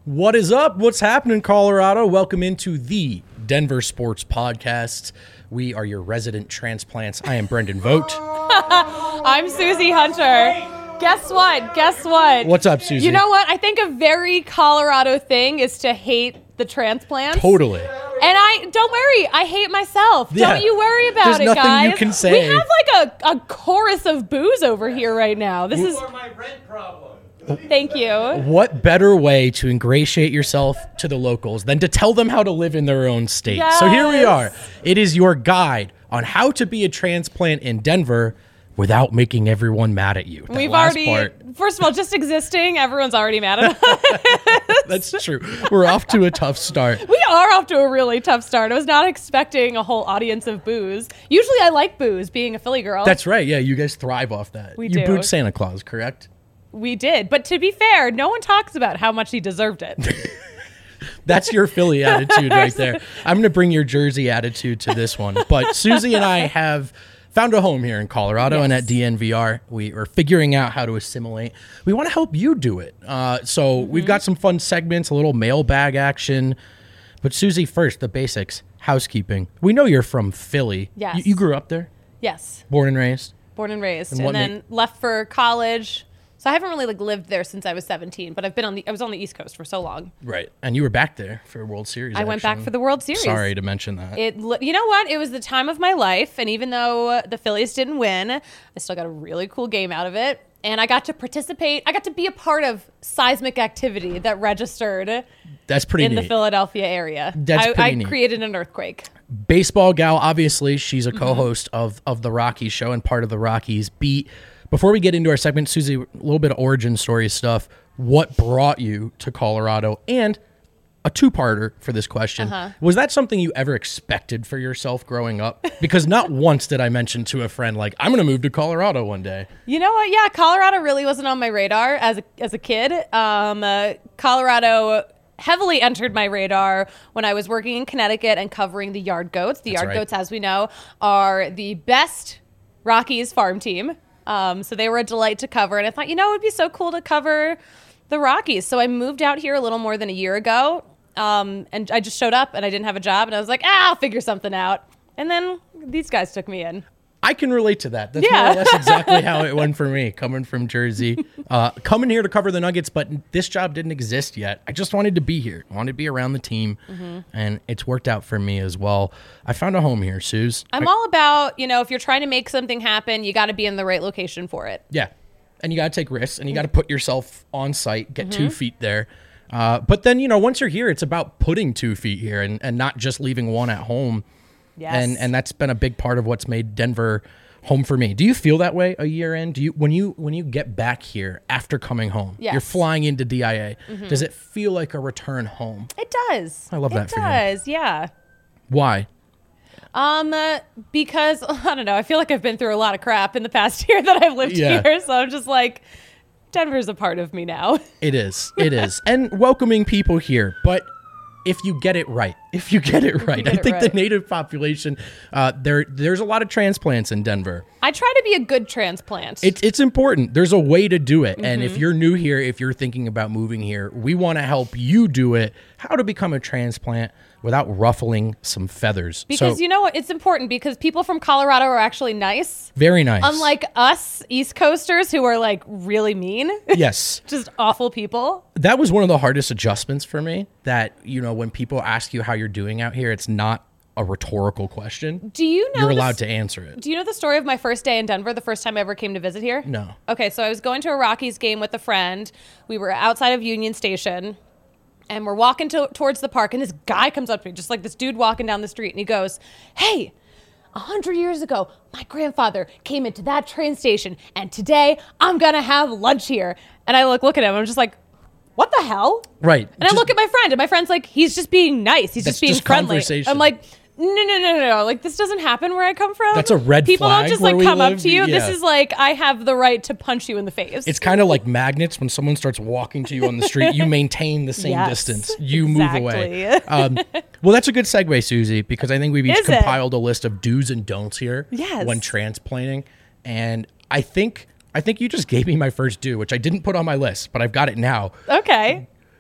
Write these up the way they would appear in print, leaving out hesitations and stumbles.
What is up? What's happening, Colorado? Welcome into the Denver Sports Podcast. We are your resident transplants. I am Brendan Vogt. I'm Susie Hunter. Guess what? What's up, Susie? You know what? I think a very Colorado thing is to hate the transplants. Totally. And don't worry, I hate myself. Yeah. Don't you worry about There's it, nothing guys. you can say. We have like a chorus of booze over here right now. This is my rent problem. Thank you. What better way to ingratiate yourself to the locals than to tell them how to live in their own state? Yes. So here we are. It is your guide on how to be a transplant in Denver without making everyone mad at you. That We've last already, part, first of all, just existing, everyone's already mad at us. that's true. We're off to a tough start. We are off to a really tough start. I was not expecting a whole audience of booze. Usually I like booze, being a Philly girl. That's right. Yeah, you guys thrive off that. We You do. booed Santa Claus, correct? We did. But to be fair, no one talks about how much he deserved it. That's your Philly attitude right there. I'm going to bring your Jersey attitude to this one. But Susie and I have found a home here in Colorado, and at DNVR, we are figuring out how to assimilate. We want to help you do it. So we've got some fun segments, a little mailbag action. But Susie, first, the basics, housekeeping. We know you're from Philly. Yes. You grew up there? Yes. Born and raised? Born and raised. And And, what then left for college. So I haven't really lived there since I was 17, but I was on the East Coast for so long. Right. And you were back there for World Series. I went back action. for the World Series. Sorry to mention that. You know what? It was the time of my life, and even though the Phillies didn't win, I still got a really cool game out of it. And I got to participate. I got to be a part of seismic activity that registered That's pretty in neat. the Philadelphia area. That's pretty I neat. created an earthquake. Baseball gal, obviously, she's a Mm-hmm. co-host of the Rockies show and part of the Rockies beat. Before we get into our segment, Susie, a little bit of origin story stuff. What brought you to Colorado? And a two-parter for this question. Was that something you ever expected for yourself growing up? Because not once did I mention to a friend, like, I'm going to move to Colorado one day. You know what? Yeah, Colorado really wasn't on my radar as a kid. Colorado heavily entered my radar when I was working in Connecticut and covering the Yard Goats. The That's Yard right. Goats, as we know, are the best Rockies farm team. So they were a delight to cover. And I thought, it would be so cool to cover the Rockies. So I moved out here a little more than a year ago. And I just showed up and I didn't have a job. And I was like, I'll figure something out. And then these guys took me in. I can relate to that. That's Yeah. more or less exactly how it went for me, coming from Jersey. Coming here to cover the Nuggets, but this job didn't exist yet. I just wanted to be here. I wanted to be around the team, and it's worked out for me as well. I found a home here, Suze. I'm all about, if you're trying to make something happen, you got to be in the right location for it. Yeah, and you got to take risks, and you got to put yourself on site, get 2 feet there. But then, once you're here, it's about putting 2 feet here and not just leaving one at home. Yes. And that's been a big part of what's made Denver home for me. Do you feel that way a year in? Do you when you get back here after coming home? Yes. You're flying into DIA. Does it feel like a return home? It does. I love that for you. It does, yeah. Why? Because, I don't know, I feel like I've been through a lot of crap in the past year that I've lived Yeah. here. So I'm just like, Denver's a part of me now. It is. It is. And welcoming people here, but if you get it right, I think the native population, there's a lot of transplants in Denver. I try to be a good transplant. It's important. There's a way to do it. And if you're new here, if you're thinking about moving here, we want to help you do it. How to become a transplant without ruffling some feathers. because So, you know what? It's important because people from Colorado are actually nice. very nice. Unlike us East Coasters who are like really mean. Yes. Just awful people. That was one of the hardest adjustments for me, that, when people ask you how you're doing out here, it's not a rhetorical question. Do you know You're the allowed to answer it. Do you know the story of my first day in Denver, the first time I ever came to visit here? No. Okay, so I was going to a Rockies game with a friend. We were outside of Union Station, and we're walking towards the park, and this guy comes up to me, just like this dude walking down the street, and he goes, "Hey, 100 years ago, my grandfather came into that train station, and today I'm going to have lunch here." And I look at him, I'm just like, what the hell? Right. And I look at my friend, and my friend's like, he's just being nice. He's That's just being just friendly. conversation. I'm like, no. Like, this doesn't happen where I come from. That's a red People flag don't just where like we come live. up to you. Yeah. This is like, I have the right to punch you in the face. It's kind of like magnets. When someone starts walking to you on the street, you maintain the same Yes, distance. You move away. exactly. Well, that's a good segue, Susie, because I think we've each Is it? compiled a list of do's and don'ts here Yes. when transplanting. And I think you just gave me my first do, which I didn't put on my list, but I've got it now. Okay.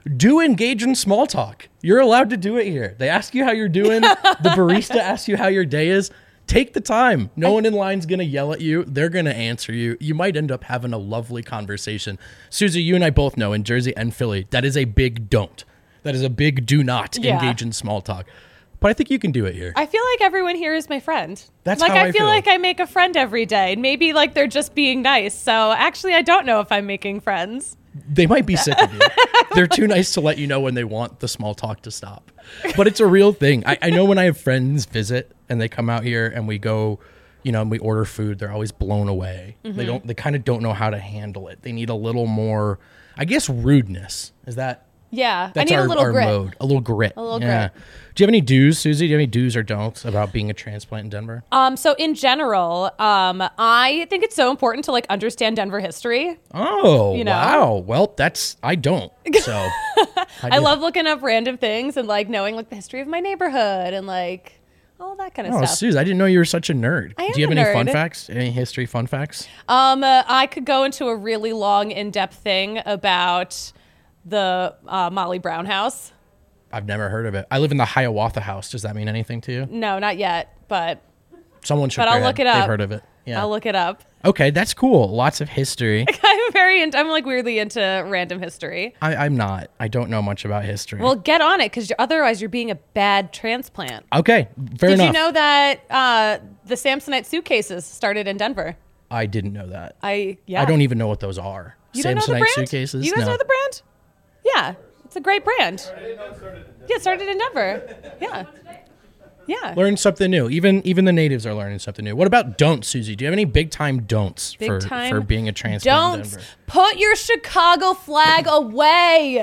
do engage in small talk. You're allowed to do it here. They ask you how you're doing. The barista asks you how your day is. Take the time. No one in line's going to yell at you. They're going to answer you. You might end up having a lovely conversation. Susie, you and I both know in Jersey and Philly, that is a big don't. That is a big do not engage in small talk. But I think you can do it here. I feel like everyone here is my friend. That's like how I feel feel. like I make a friend every day. Maybe like they're just being nice. So actually, I don't know if I'm making friends. They might be sick of you. They're too nice to let you know when they want the small talk to stop. But it's a real thing. I know when I have friends visit and they come out here and we go, and we order food, they're always blown away. They kind of don't know how to handle it. They need a little more, I guess, rudeness. Is that? Yeah, That's I need our a little grit. mode. A little grit. A little yeah. grit. Do you have any do's, Susie? Do you have any do's or don'ts about being a transplant in Denver? So in general, I think it's so important to like understand Denver history. Oh, You know? wow. Well, I don't. So I love looking up random things and like knowing like the history of my neighborhood and like all that kind of Oh, stuff. Susie, I didn't know you were such a nerd. I am Do you have a any fun nerd. facts? Any history fun facts? I could go into a really long, in-depth thing about the Molly Brown house. I've never heard of it. I live in the Hiawatha House. Does that mean anything to you? No, not yet, but Someone should. But I'll look it up. They've heard of it. Yeah. I'll look it up. Okay, that's cool. Lots of history. I'm like weirdly into random history. I'm not. I don't know much about history. Well, get on it because otherwise you're being a bad transplant. okay, fair Did enough. you know that the Samsonite suitcases started in Denver? I didn't know that. I don't even know what those are. You don't know the Samsonite brand? suitcases. You guys No. know the brand? Yeah, it's a great brand. Yeah, it started in Denver. Yeah. Yeah. Learn something new. Even the natives are learning something new. What about don'ts, Susie? Do you have any big time don'ts for being a transplant in Don't Denver? put your Chicago flag away.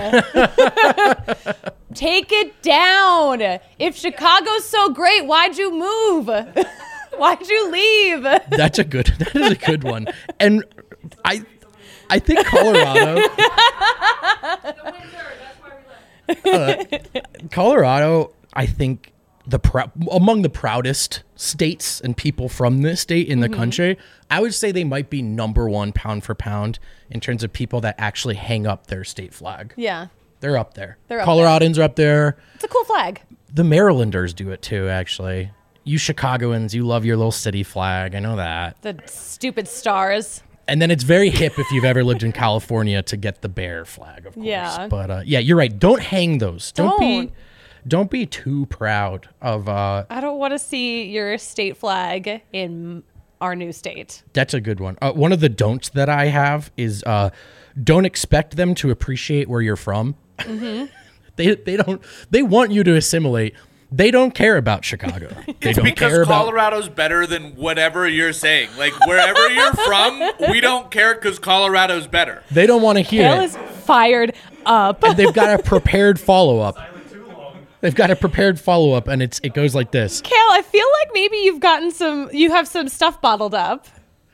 Take it down. If Chicago's so great, why'd you move? Why'd you leave? That is a good one. And I think Colorado. Colorado, I think among the proudest states and people from this state in the country, I would say they might be number one pound for pound in terms of people that actually hang up their state flag. Yeah. They're up there. They're up Coloradans are up there. It's a cool flag. The Marylanders do it too, actually. You Chicagoans, you love your little city flag. I know that. The stupid stars. And then it's very hip if you've ever lived in California to get the bear flag, of course. Yeah. But yeah, you're right. Don't hang those. Don't be too proud of. I don't want to see your state flag in our new state. That's a good one. One of the don'ts that I have is don't expect them to appreciate where you're from. Mm-hmm. They don't. They want you to assimilate. They don't care about Chicago. They don't Because care about. Colorado's better than whatever you're saying. Like, wherever you're from, we don't care because Colorado's better. They don't want to hear Kale it. is fired up. And they've got a prepared follow up. They've got a prepared follow up, and it goes like this. Kale, I feel like maybe you have some stuff bottled up.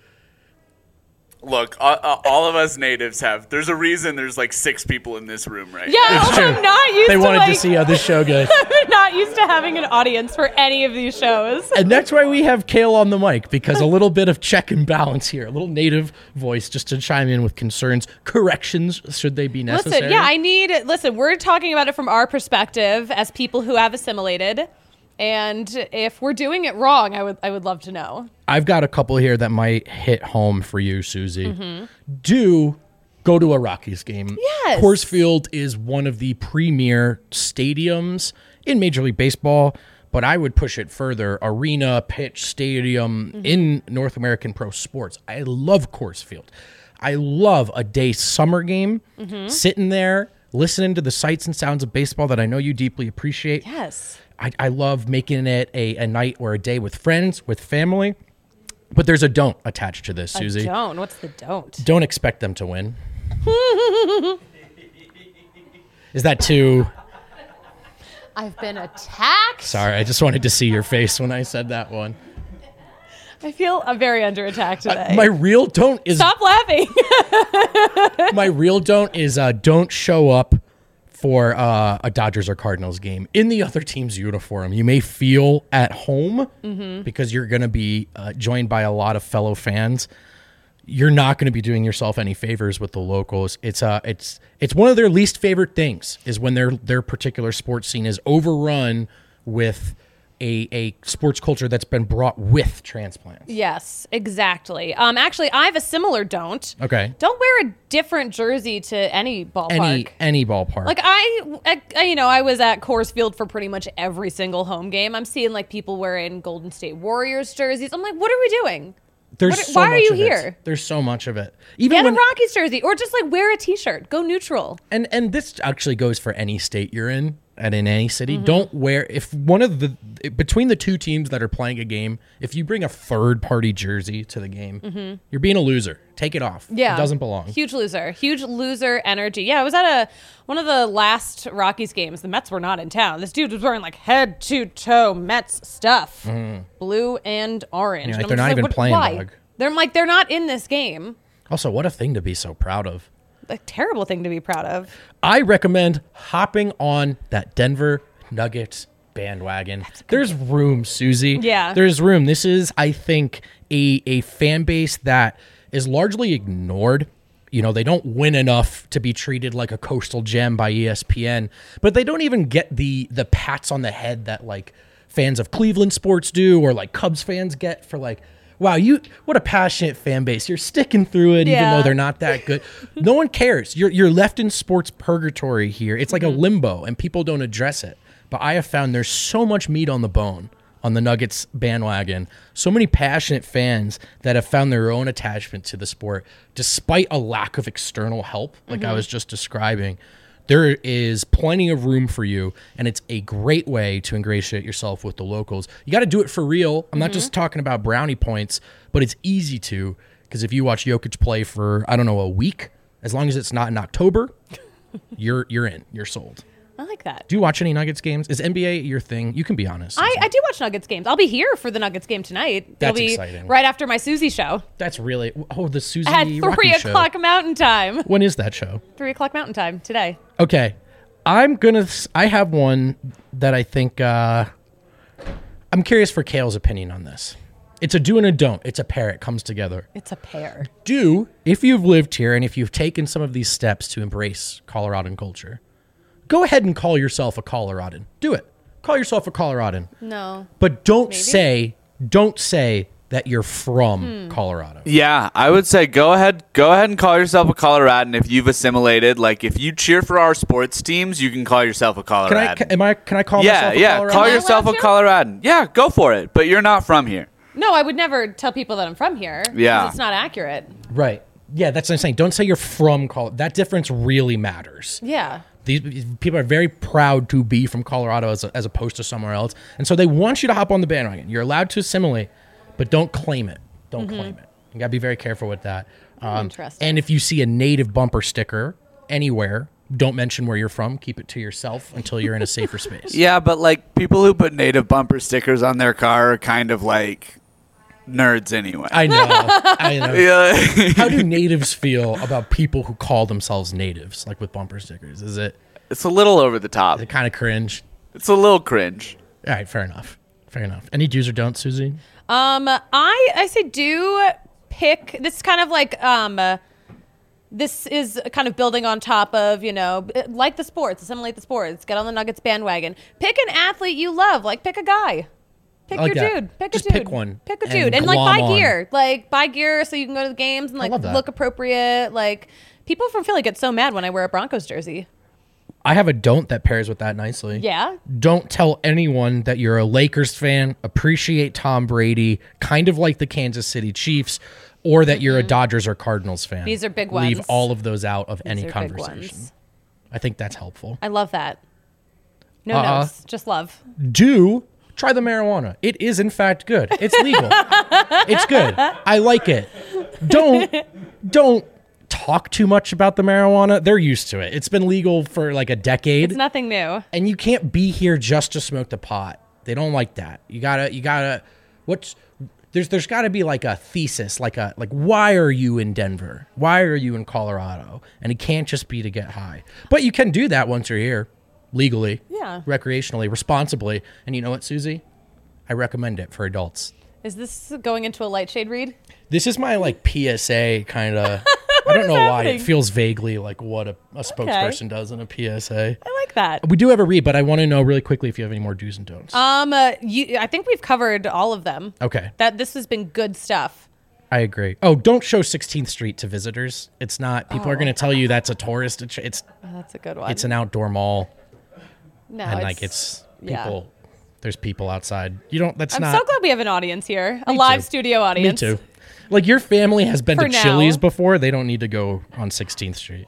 Look, all of us natives have. There's a reason there's like 6 people in this room right now. Yeah, It's true. I'm not used They to wanted to see how this show goes. I'm not used to having an audience for any of these shows. And that's why we have Kale on the mic, because a little bit of check and balance here, a little native voice just to chime in with concerns, corrections, should they be necessary. Listen, we're talking about it from our perspective as people who have assimilated. And if we're doing it wrong, I would love to know. I've got a couple here that might hit home for you, Susie. Mm-hmm. Do go to a Rockies game. Yes. Coors Field is one of the premier stadiums in Major League Baseball, but I would push it further. Arena, pitch, stadium in North American pro sports. I love Coors Field. I love a day summer game, sitting there, listening to the sights and sounds of baseball that I know you deeply appreciate. Yes. I love making it a night or a day with friends, with family. But there's a don't attached to this, Susie. Don't. What's the don't? Don't expect them to win. Is that too... I've been attacked. Sorry, I just wanted to see your face when I said that one. I feel very under attack today. My real don't is... Stop laughing. My real don't is don't show up for a Dodgers or Cardinals game in the other team's uniform. You may feel at home because you're going to be joined by a lot of fellow fans. you're not going to be doing yourself any favors with the locals. It's one of their least favorite things is when their particular sports scene is overrun with a sports culture that's been brought with transplants. Yes, exactly. Actually, I have a similar don't. Okay. Don't wear a different jersey to any ballpark. Any ballpark. Like I was at Coors Field for pretty much every single home game. I'm seeing like people wearing Golden State Warriors jerseys. I'm like, what are we doing? Why are you here? There's so much of it. Even Get when, a Rockies jersey, or just like wear a T-shirt. Go neutral. and this actually goes for any state you're in and in any city. Mm-hmm. Don't wear if one of the between the two teams that are playing a game. If you bring a third party jersey to the game, you're being a loser. Take it off. Yeah, it doesn't belong. Huge loser energy. Yeah, I was at one of the last Rockies games. The Mets were not in town. This dude was wearing like head to toe Mets stuff, blue and orange. Yeah, And like I'm they're just not even what- playing, why? dog. They're not in this game. Also, what a thing to be so proud of. A terrible thing to be proud of. I recommend hopping on that Denver Nuggets bandwagon. There's room, Susie. Yeah. There's room. This is, I think, a fan base that is largely ignored. You know, they don't win enough to be treated like a coastal gem by ESPN, but they don't even get the pats on the head that like fans of Cleveland sports do or like Cubs fans get for like, wow, what a passionate fan base. You're sticking through it even Yeah. though they're not that good. No one cares. You're left in sports purgatory here. It's like a limbo and people don't address it. But I have found there's so much meat on the bone on the Nuggets bandwagon. So many passionate fans that have found their own attachment to the sport despite a lack of external help, like I was just describing. There is plenty of room for you, and it's a great way to ingratiate yourself with the locals. You got to do it for real. I'm not just talking about brownie points, but it's easy to, because if you watch Jokic play for, I don't know, a week, as long as it's not in October, you're in. You're sold. I like that. Do you watch any Nuggets games? Is NBA your thing? You can be honest. I do watch Nuggets games. I'll be here for the Nuggets game tonight. That's It'll be exciting. right after my Susie show That's really, the Susie at 3 Rocky show. o'clock Mountain Time. When is that show? 3 o'clock Mountain Time today. Okay. I have one that I think, I'm curious for Kale's opinion on this. It's a do and a don't. It's a pair. It comes together. It's a pair. Do, if you've lived here and if you've taken some of these steps to embrace Coloradan culture, go ahead and call yourself a Coloradan. Do it. Call yourself a Coloradan. No. But don't say that you're from Colorado. Yeah, I would say go ahead and call yourself a Coloradan if you've assimilated. Like if you cheer for our sports teams, you can call yourself a Coloradan. Can I call myself a Coloradan? Call Am I yourself a allowed to? Coloradan. Yeah, go for it. But you're not from here. No, I would never tell people that I'm from here. 'Cause Yeah. It's not accurate. Right. Yeah, that's what I'm saying. Don't say you're from Colorado. That difference really matters. Yeah. These people are very proud to be from Colorado as opposed to somewhere else. And so they want you to hop on the bandwagon. You're allowed to assimilate, but don't claim it. Don't claim it. You got to be very careful with that. Interesting. And if you see a native bumper sticker anywhere, don't mention where you're from. Keep it to yourself until you're in a safer space. Yeah, but like people who put native bumper stickers on their car are kind of like nerds anyway. I know. Yeah. How do natives feel about people who call themselves natives, like with bumper stickers? Is it It's a little over the top. kind of cringe? It's a little cringe. All right, fair enough. Fair enough. Any do's or don'ts, Susie? I say do pick. This is kind of like this is kind of building on top of, like the sports, assimilate the sports, get on the Nuggets bandwagon. Pick an athlete you love, like pick a guy. Pick I like your that. dude. Pick Just a dude. pick one Pick a and dude. And like glom buy on. gear. Like buy gear so you can go to the games and like love that. look appropriate. Like people from Philly get so mad when I wear a Broncos jersey. I have a don't that pairs with that nicely. Yeah. Don't tell anyone that you're a Lakers fan, appreciate Tom Brady, kind of like the Kansas City Chiefs, or that you're a Dodgers or Cardinals fan. These are big Leave ones. all of those out of any These are big conversation. ones. I think that's helpful. I love that. No notes, just love. Do try the marijuana. It is in fact good. It's legal. It's good. I like it. Don't talk too much about the marijuana. They're used to it. It's been legal for like a decade. It's nothing new. And you can't be here just to smoke the pot. They don't like that. You gotta there's gotta be like a thesis, like why are you in Denver? Why are you in Colorado? And it can't just be to get high. But you can do that once you're here. Legally. Yeah. Recreationally, responsibly. And you know what, Susie? I recommend it for adults. Is this going into a light shade read? This is my like PSA kind of. I don't know why happening? it feels vaguely like what a spokesperson does in a PSA. I like that. We do have a read, but I want to know really quickly if you have any more do's and don'ts. I think we've covered all of them. Okay, This has been good stuff. I agree. Oh, don't show 16th Street to visitors. It's not. People are going to tell you that's a tourist. It's That's a good one. it's an outdoor mall, no, and like it's yeah. people. There's people outside. You don't. That's I'm not. so glad we have an audience here, a Me live too. studio Me audience. too. Like your family has been For to now. Chili's before. They don't need to go on 16th Street.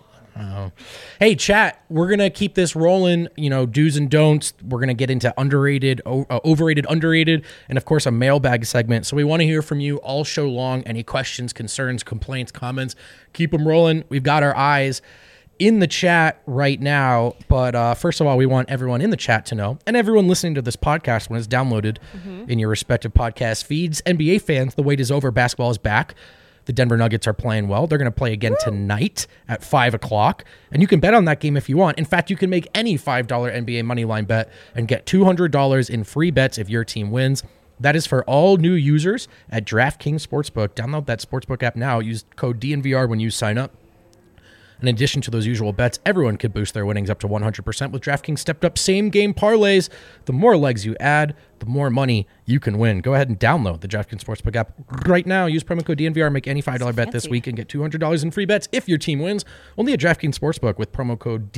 Hey, chat, we're going to keep this rolling, do's and don'ts. We're going to get into underrated, overrated, underrated, and of course a mailbag segment. So we want to hear from you all show long. Any questions, concerns, complaints, comments, keep them rolling. We've got our eyes in the chat right now. But first of all, we want everyone in the chat to know, and everyone listening to this podcast when it's downloaded in your respective podcast feeds, NBA fans, the wait is over. Basketball is back. The Denver Nuggets are playing well. They're going to play again tonight at 5 o'clock. And you can bet on that game if you want. In fact, you can make any $5 NBA moneyline bet and get $200 in free bets if your team wins. That is for all new users at DraftKings Sportsbook. Download that Sportsbook app now. Use code DNVR when you sign up. In addition to those usual bets, everyone could boost their winnings up to 100% with DraftKings stepped-up same-game parlays. The more legs you add, the more money you can win. Go ahead and download the DraftKings Sportsbook app right now. Use promo code DNVR. Make any $5 bet this week and get $200 in free bets if your team wins. Only at DraftKings Sportsbook with promo code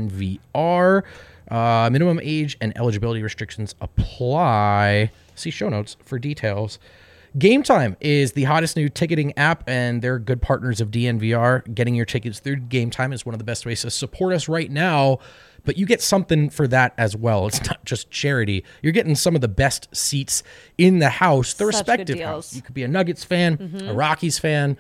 DNVR. Minimum age and eligibility restrictions apply. See show notes for details. Game Time is the hottest new ticketing app, and they're good partners of DNVR. Getting your tickets through Game Time is one of the best ways to support us right now, but you get something for that as well. It's not just charity. You're getting some of the best seats in the house, the Such respective good house. deals. You could be a Nuggets fan, a Rockies fan.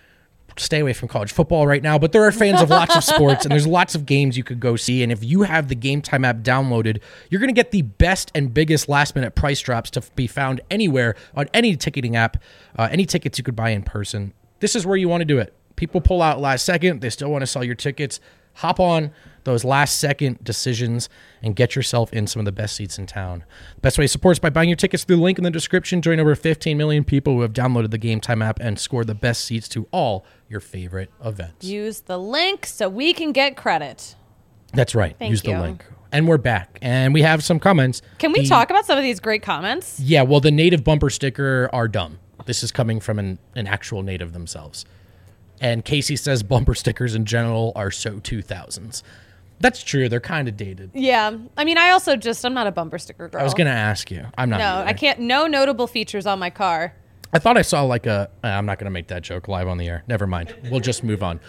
Stay away from college football right now, but there are fans of lots of sports, and there's lots of games you could go see. And if you have the Game Time app downloaded, you're going to get the best and biggest last-minute price drops to be found anywhere on any ticketing app, any tickets you could buy in person. This is where you want to do it. People pull out last second. They still want to sell your tickets. Hop on those last-second decisions and get yourself in some of the best seats in town. The best way to support is by buying your tickets through the link in the description. Join over 15 million people who have downloaded the Game Time app and score the best seats to all your favorite events. Use the link so we can get credit. That's right. Thank Use you. the link. And we're back. And we have some comments. Can we talk about some of these great comments? Yeah, well, the native bumper sticker are dumb. This is coming from an actual native themselves. And Casey says bumper stickers in general are so 2000s. That's true. They're kind of dated. Yeah. I mean, I'm not a bumper sticker girl. I was going to ask you. I'm not. No, either. I can't. No notable features on my car. I thought I saw like I'm not going to make that joke live on the air. Never mind. We'll just move on.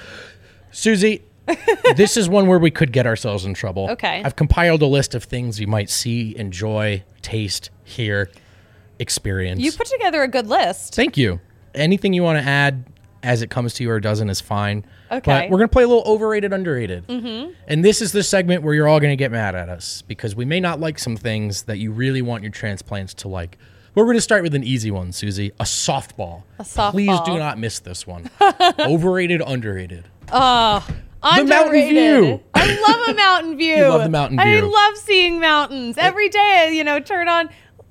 Susie, this is one where we could get ourselves in trouble. Okay. I've compiled a list of things you might see, enjoy, taste, hear, experience. You put together a good list. Thank you. Anything you want to add as it comes to you or doesn't is fine. Okay. But we're going to play a little overrated, underrated. Mm-hmm. And this is the segment where you're all going to get mad at us because we may not like some things that you really want your transplants to like. But we're going to start with an easy one, Susie. A softball. A softball. Please do not miss this one. Overrated, underrated. Underrated. Mountain View. I love a mountain view. You love the mountain I view. love seeing mountains. Every day, turn down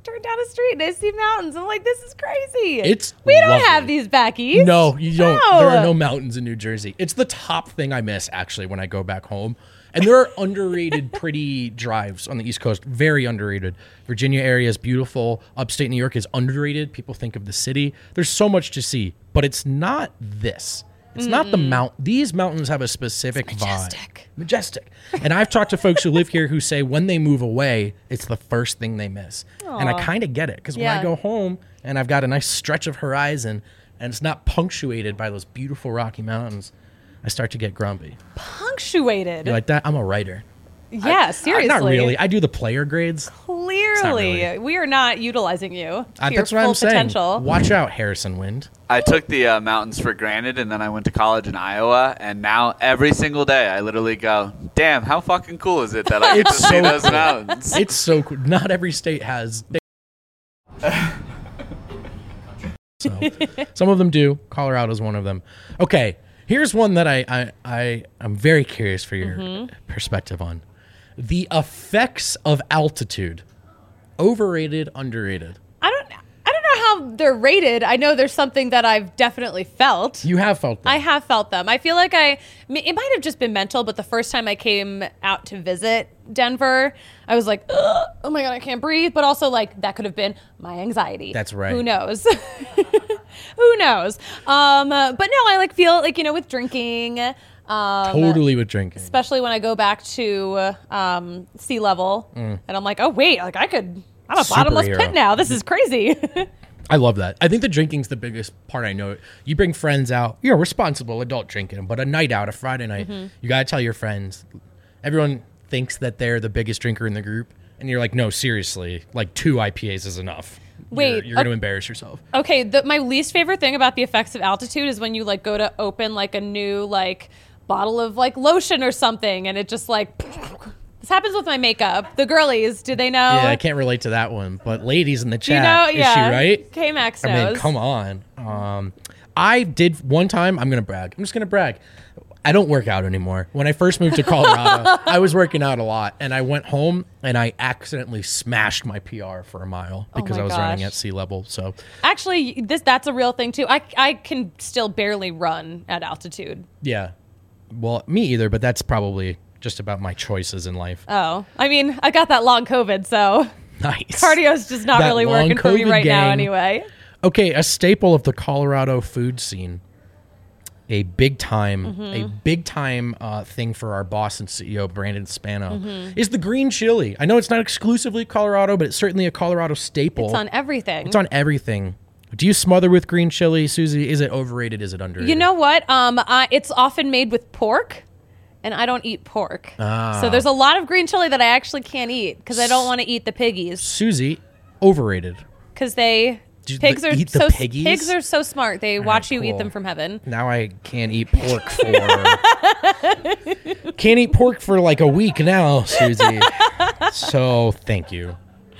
a street and I see mountains. I'm like, this is crazy. We don't lovely. have these back east. No, you don't. No. There are no mountains in New Jersey. It's the top thing I miss, actually, when I go back home. And there are underrated, pretty drives on the East Coast. Very underrated. Virginia area is beautiful. Upstate New York is underrated. People think of the city. There's so much to see, but it's not this. It's not the mount. These mountains have a specific vibe. Majestic. And I've talked to folks who live here who say when they move away, it's the first thing they miss. And I kind of get it because when I Yeah. go home and I've got a nice stretch of horizon and it's not punctuated by those beautiful Rocky Mountains, I start to get grumpy. Punctuated. You like that? I'm a writer. Yeah, seriously. Not really. I do the player grades. Clearly, really. we are not utilizing you to your That's what full I'm saying. potential. Watch out, Harrison Wind. I took the mountains for granted, and then I went to college in Iowa, and now every single day I literally go, damn, how fucking cool is it that I get to It's see so those cool. mountains? It's so cool. Not every state has. So, some of them do. Colorado's one of them. Okay, here's one that I'm very curious for your perspective on. The effects of altitude. Overrated, underrated. I don't know how know they're rated. I know there's something that I've definitely felt. You have felt that. I have felt them. I feel like it might have just been mental, but the first time I came out to visit Denver, I was like, ugh, oh my God, I can't breathe. But also, like, that could have been my anxiety. That's right. Who knows? Who knows? But no, I like feel like, with drinking. Totally with drinking. Especially when I go back to sea level and I'm like, oh, wait, like I'm a bottomless Superhero. pit now. This is crazy. I love that. I think the drinking's the biggest part. I know you bring friends out. You're responsible adult drinking, but a night out, a Friday night, you got to tell your friends. Everyone thinks that they're the biggest drinker in the group. And you're like, no, seriously, like 2 IPAs is enough. Wait, You're going to embarrass yourself. Okay, my least favorite thing about the effects of altitude is when you like go to open like a new like bottle of like lotion or something and it just like this happens with my makeup. The girlies, do they know? Yeah, I can't relate to that one. But ladies in the chat, yeah. is she right? K-Max I knows. mean, come on. I did one time. I'm going to brag. I'm just going to brag. I don't work out anymore. When I first moved to Colorado, I was working out a lot. And I went home and I accidentally smashed my PR for a mile because I was running gosh. at sea level. So Actually, that's a real thing too. I can still barely run at altitude. yeah. Well, me either, but that's probably just about my choices in life. Oh, I mean, I got that long COVID, so Nice. cardio's just not That really long working for me COVID right now gang. anyway. Okay, a staple of the Colorado food scene. A big time thing for our boss and CEO, Brandon Spano, is the green chili. I know it's not exclusively Colorado, but it's certainly a Colorado staple. It's on everything. It's on everything. Do you smother with green chili, Susie? Is it overrated? Is it underrated? You know what? It's often made with pork, and I don't eat pork. So there's a lot of green chili that I actually can't eat because I don't want to eat the piggies. Susie, overrated. Because pigs eat the piggies? Pigs are so smart. They watch you eat cool. them from heaven. Now I can't eat pork for like a week now, Susie. So thank you.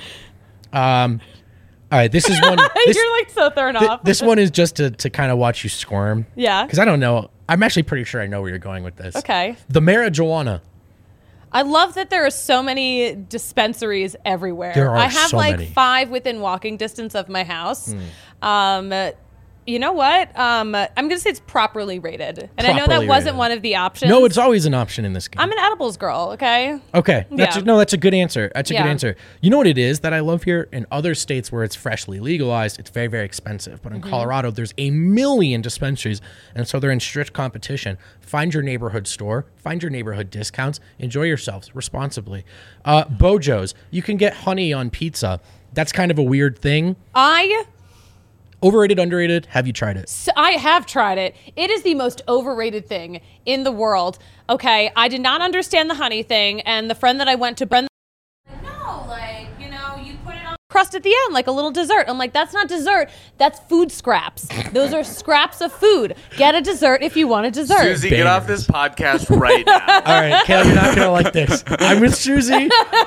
All right, this is one. You're like so thrown off. This one is just to kind of watch you squirm. Yeah. Because I don't know. I'm actually pretty sure I know where you're going with this. Okay. The marijuana. I love that there are so many dispensaries everywhere. There are I have so like many. 5 within walking distance of my house. You know what? I'm going to say it's properly rated. And I know that Properly wasn't rated. one of the options. No, it's always an option in this game. I'm an edibles girl, okay? Okay. That's Yeah. that's a good answer. That's a good Yeah. answer. You know what it is that I love here? In other states where it's freshly legalized, it's very, very expensive. But in Colorado, there's a million dispensaries. And so they're in strict competition. Find your neighborhood store. Find your neighborhood discounts. Enjoy yourselves responsibly. Bojo's. You can get honey on pizza. That's kind of a weird thing. Overrated, underrated? Have you tried it? So I have tried it. It is the most overrated thing in the world. Okay, I did not understand the honey thing, and the friend that I went to, Brenda, no, like, you put it on crust at the end, like a little dessert. I'm like, that's not dessert. That's food scraps. Those are scraps of food. Get a dessert if you want a dessert. Susie, get off this podcast right now. All right, Caleb, you're not going to like this. I'm with Susie.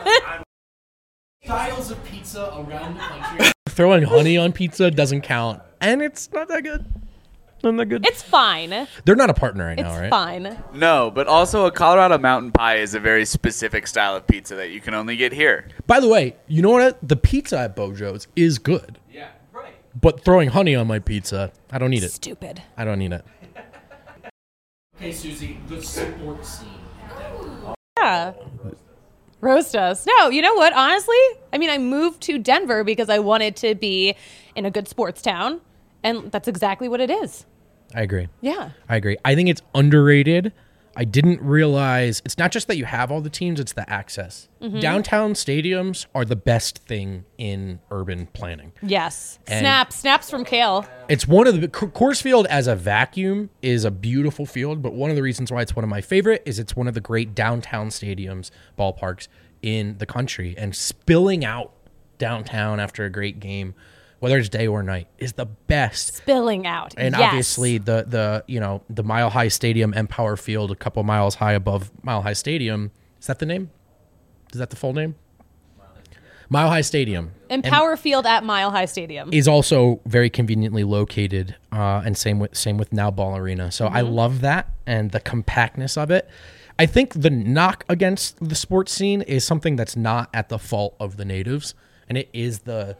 Styles of pizza around the country. Throwing honey on pizza doesn't count. And it's not that good. Not that good. It's fine. They're not a partner right It's now, right? fine. No, but also a Colorado mountain pie is a very specific style of pizza that you can only get here. By the way, you know what? The pizza at Bojo's is good. Yeah, right. But throwing honey on my pizza, I don't need it. Stupid. I don't need it. Hey, Susie, the sports scene. Yeah. Roast us. No, you know what? Honestly, I mean, I moved to Denver because I wanted to be in a good sports town, and that's exactly what it is. I agree. Yeah. I agree. I think it's underrated. I didn't realize it's not just that you have all the teams, it's the access. Downtown stadiums are the best thing in urban planning. Yes. And- Snaps from Kale. It's one of the Coors Field as a vacuum is a beautiful field, but one of the reasons why it's one of my favorite is it's one of the great downtown stadiums, ballparks in the country, and spilling out downtown after a great game, whether it's day or night, is the best. Spilling out. And yes. obviously the Mile High Stadium, Empower Field, a couple miles high above Mile High Stadium. Is that the name? Is that the full name? Mile High Stadium. Empower Field at Mile High Stadium. Is also very conveniently located, and same with Now Ball Arena. So I love that and the compactness of it. I think the knock against the sports scene is something that's not at the fault of the natives, and it is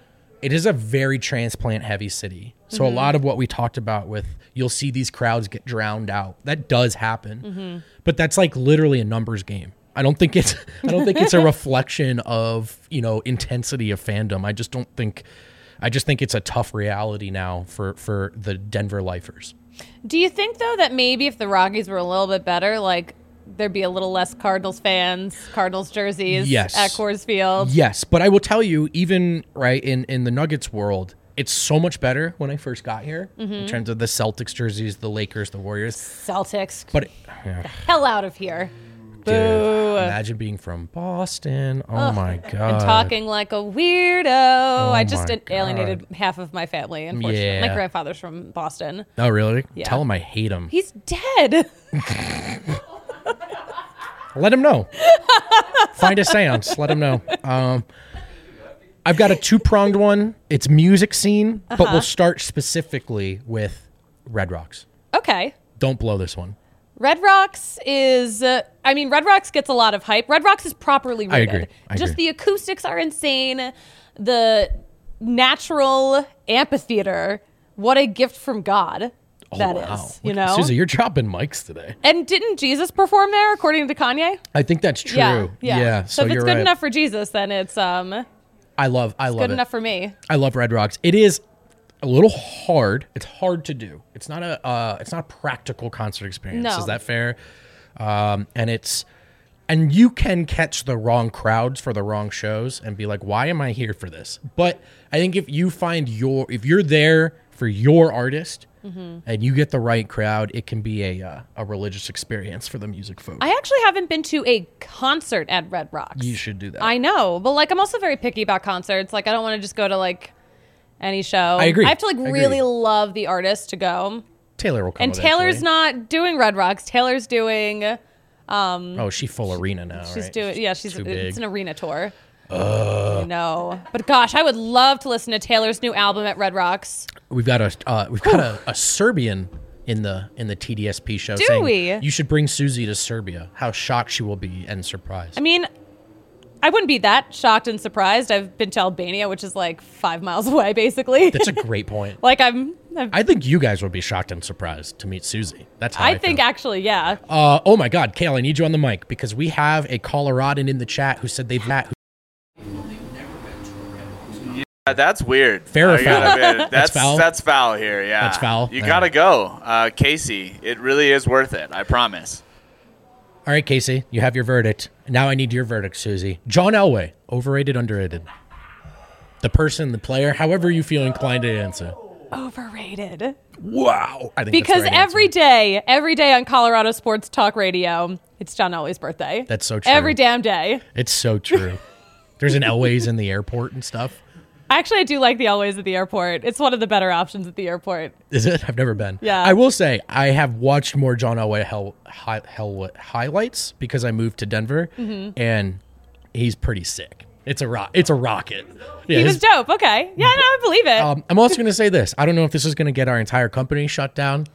it is a very transplant heavy city. So a lot of what we talked about with you'll see these crowds get drowned out. That does happen. But that's like literally a numbers game. I don't think it's a reflection of, intensity of fandom. I just think it's a tough reality now for the Denver lifers. Do you think, though, that maybe if the Rockies were a little bit better, like there'd be a little less Cardinals fans, Cardinals jerseys at Coors Field? Yes, but I will tell you, even right in the Nuggets world, it's so much better when I first got here in terms of the Celtics jerseys, the Lakers, the Warriors. Celtics. But the hell out of here. dude, Boo. imagine being from Boston. Oh my God. And talking like a weirdo. I just my alienated half of my family, unfortunately. Yeah. My grandfather's from Boston. Oh, really? Yeah. Tell him I hate him. He's dead. Let him know. Find a seance. Let him know. I've got a two-pronged one. It's music scene, but we'll start specifically with Red Rocks. Okay. Don't blow this one. Red Rocks is, Red Rocks gets a lot of hype. Red Rocks is properly I rated. agree. Just the acoustics are insane. The natural amphitheater. What a gift from God that is, Susie, you're dropping mics today. And didn't Jesus perform there, according to Kanye? I think that's true. Yeah. So if you're it's good right. enough for Jesus, then it's I love good it. enough for me. I love Red Rocks. It is a little hard. It's hard to do. It's not a practical concert experience. No. Is that fair? And you can catch the wrong crowds for the wrong shows and be like, why am I here for this? But I think if you're there for your artist and you get the right crowd, it can be a religious experience for the music folks. I actually haven't been to a concert at Red Rocks. You should do that. I know, but I'm also very picky about concerts. I don't want to just go to any show. I agree. I have to really love the artist to go. Taylor will come. And Taylor's not doing Red Rocks. Taylor's doing. She's full arena now. She's right? doing. Yeah, Too big. it's an arena tour. I know, but gosh, I would love to listen to Taylor's new album at Red Rocks. We've got a Serbian in the TDSP show. Do saying we? You should bring Susie to Serbia. How shocked she will be and surprised. I wouldn't be that shocked and surprised. I've been to Albania, which is 5 miles away, basically. That's a great point. I I think you guys would be shocked and surprised to meet Susie. That's how I think feel. actually, yeah. Oh my God, Kale, I need you on the mic because we have a Coloradan in the chat who said they've met. Yeah, that's weird. Fair or I foul? gotta admit, That's foul? That's foul here. Yeah, That's foul? You Yeah. gotta go, Casey. It really is worth it. I promise. All right, Casey, you have your verdict. Now I need your verdict, Susie. John Elway, overrated, underrated? The person, the player, however you feel inclined to answer. Overrated. Wow. I think Because that's the right every day on Colorado Sports Talk Radio, it's John Elway's birthday. That's so true. Every damn day. It's so true. There's an Elway's in the airport and stuff. Actually, I do like the Elways at the airport. It's one of the better options at the airport. Is it? I've never been. Yeah. I will say I have watched more John Elway highlights because I moved to Denver, and he's pretty sick. It's a rocket. Yeah, He was dope. Okay. Yeah, no, I believe it. I'm also going to say this. I don't know if this is going to get our entire company shut down.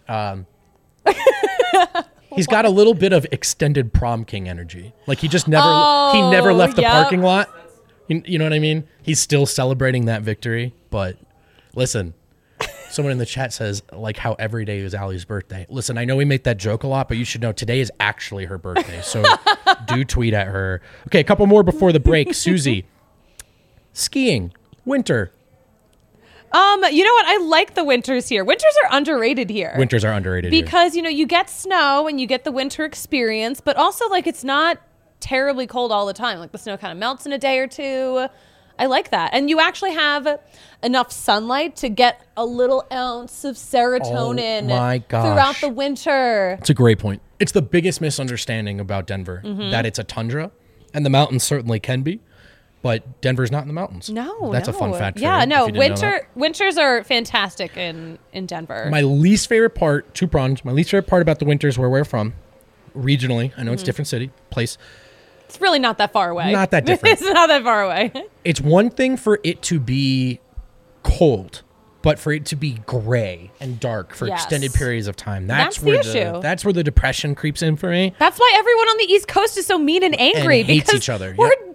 He's got a little bit of extended prom king energy. He just never left the yep. parking lot. You know what I mean? He's still celebrating that victory. But listen, someone in the chat says how every day is Allie's birthday. Listen, I know we make that joke a lot, but you should know today is actually her birthday. So do tweet at her. Okay, a couple more before the break. Susie, skiing, winter. You know what? I like the winters here. Winters are underrated here. Winters are underrated here. Because, you get snow and you get the winter experience, but also, it's not terribly cold all the time. The snow kind of melts in a day or two. I like that. And you actually have enough sunlight to get a little ounce of serotonin my gosh. throughout the winter. It's a great point. It's the biggest misunderstanding about Denver, that it's a tundra, and the mountains certainly can be, but Denver's not in the mountains. No, That's a fun fact. Yeah, for you, no. if you didn't know that. Winters are fantastic in Denver. My least favorite part, two-pronged, my least favorite part about the winters where we're from, regionally, I know it's a different city, place, It's really not that far away. Not that different. It's not that far away. it's one thing for it to be cold, but for it to be gray and dark for Yes. extended periods of time, That's the where issue. That's where the depression creeps in for me. That's why everyone on the East Coast is so mean and angry And hates because each other. we're Yep.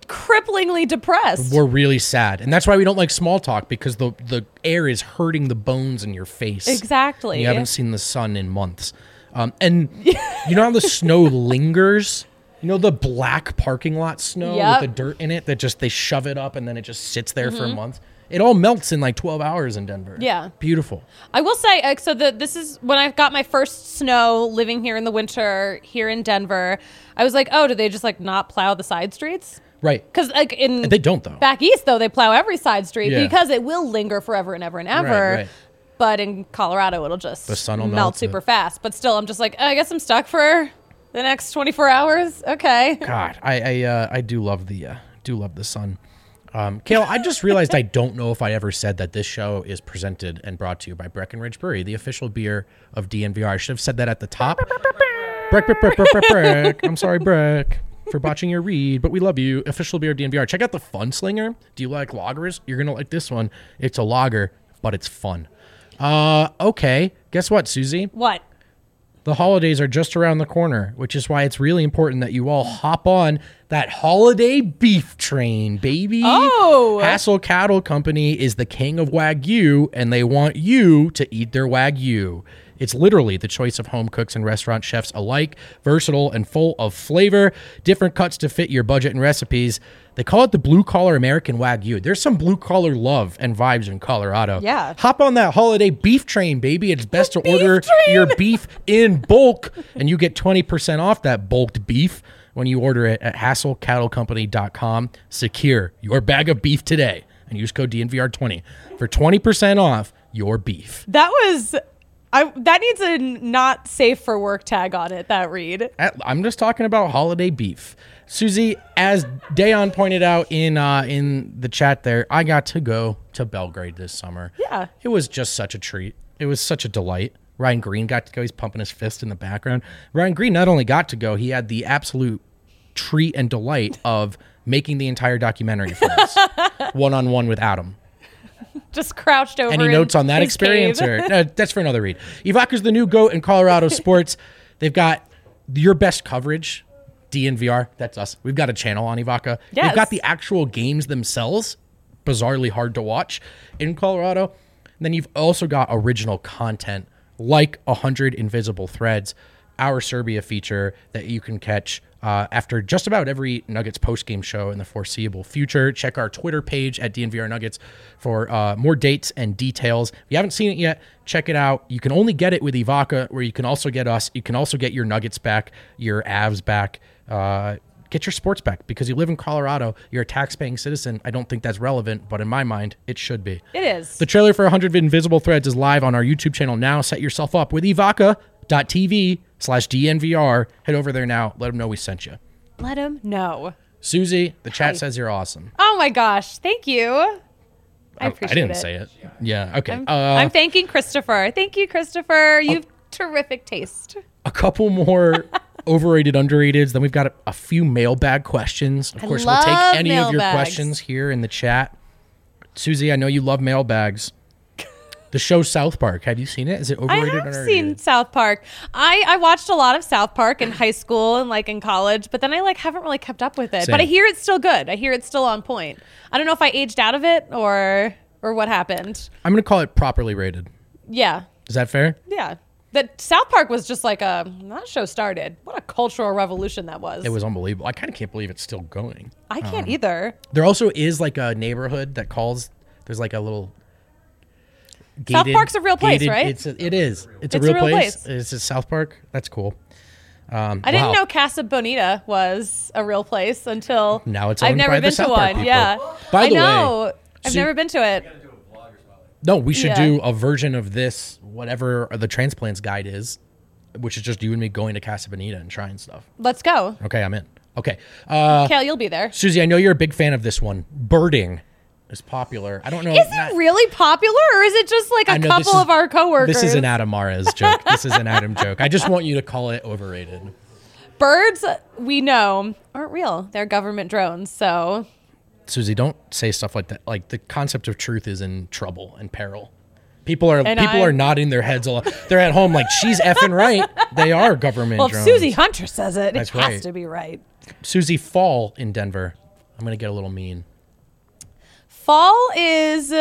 cripplingly depressed. We're really sad. And that's why we don't like small talk, because the air is hurting the bones in your face. Exactly. You haven't seen the sun in months. And you know how the snow lingers? You know the black parking lot snow Yep. with the dirt in it that just they shove it up and then it just sits there for a month? It all melts in like 12 hours in Denver. Yeah. Beautiful. I will say, this is when I got my first snow living here in the winter here in Denver. I was like, oh, do they just like not plow the side streets? Right. Because like They don't, though. back east though, they plow every side street Yeah. because it will linger forever and ever and ever. Right. But in Colorado, it'll just The sun will melt melt super it. fast. But still, I'm just like, I guess I'm stuck for the next 24 hours. Okay. God, I do love the sun. Kale, I just realized I don't know if I ever said that this show is presented and brought to you by Breckenridge Brewery, the official beer of DNVR. I should have said that at the top. Breck. I'm sorry, Breck, for botching your read, but we love you. Official beer of DNVR. Check out the Fun Slinger. Do you like lagers? You're gonna like this one. It's a lager, but it's fun. Okay. Guess what, Susie? What? The holidays are just around the corner, which is why it's really important that you all hop on that holiday beef train, baby. Oh. Hassel Cattle Company is the king of Wagyu, and they want you to eat their Wagyu. It's literally the choice of home cooks and restaurant chefs alike, versatile and full of flavor, different cuts to fit your budget and recipes. They call it the blue-collar American Wagyu. There's some blue-collar love and vibes in Colorado. Yeah. Hop on that holiday beef train, baby. It's best to beef order train. your beef in bulk, and you get 20% off that bulked beef when you order it at HassleCattleCompany.com. Secure your bag of beef today and use code DNVR20 for 20% off your beef. That needs a not safe for work tag on it, that read. I'm just talking about holiday beef. Susie, as Dayon pointed out in the chat there, I got to go to Belgrade this summer. Yeah. It was just such a treat. It was such a delight. Ryan Green got to go. He's pumping his fist in the background. Ryan Green not only got to go, he had the absolute treat and delight of making the entire documentary for us, one-on-one with Adam. Just crouched over. Any in notes on that his experience? cave. Or no, that's for another read. Evoca's the new GOAT in Colorado sports. They've got your best coverage, DNVR. That's us. We've got a channel on Evoca. Yes. They've got the actual games themselves, bizarrely hard to watch in Colorado. And then you've also got original content like 100 Invisible Threads, our Serbia feature that you can catch after just about every Nuggets postgame show in the foreseeable future. Check our Twitter page at DNVR Nuggets for more dates and details. If you haven't seen it yet, check it out. You can only get it with Evoca, where you can also get us. You can also get your Nuggets back, your Avs back, get your sports back, because you live in Colorado. You're a tax-paying citizen. I don't think that's relevant, but in my mind, it should be. It is. The trailer for 100 Invisible Threads is live on our YouTube channel now. Set yourself up with evoca.tv/DNVR. Head over there now. Let them know we sent you. Let him know. Susie, the chat Hi. says you're awesome. Oh my gosh. Thank you. I appreciate it. I didn't say it. Yeah, okay. I'm thanking Christopher. Thank you, Christopher. You've terrific taste. A couple more overrated, underrateds. Then we've got a few mailbag questions. Of course, we'll take love any of your mailbags. questions here in the chat. Susie, I know you love mailbags. The show South Park. Have you seen it? Is it I overrated or have underrated? seen South Park. I watched a lot of South Park in high school and like in college, but then I like haven't really kept up with it. Same. But I hear it's still good. I hear it's still on point. I don't know if I aged out of it or what happened. I'm going to call it properly rated. Yeah. Is that fair? Yeah. That South Park was just like that show started. What a cultural revolution that was. It was unbelievable. I kind of can't believe it's still going. I can't either. There also is like a neighborhood that calls. There's like a little. South Park's a real place, right? It is. It's It's a real place. Is it South Park? That's cool. I didn't know Casa Bonita was a real place until Now it's I've owned never by the been South to Park one. people. Yeah. By the way, I know. I've Su- never been to it. No, we should Yeah. do a version of this, whatever the transplants guide is, which is just you and me going to Casa Bonita and trying stuff. Let's go. Okay, I'm in. Okay. Kale, you'll be there. Susie, I know you're a big fan of this one. Birding is popular. I don't know. Is it really popular, or is it just like I a know couple of our coworkers? This is an Adam Mares joke. This is an Adam joke. I just want you to call it overrated. Birds, we know, aren't real. They're government drones. So Susie, don't say stuff like that. Like, the concept of truth is in trouble and peril. People are nodding their heads a lot. They're at home like, she's effing right. They are government well, if drones. Susie Hunter says it, That's it has right. to be right. Susie, fall in Denver. I'm going to get a little mean. Fall is,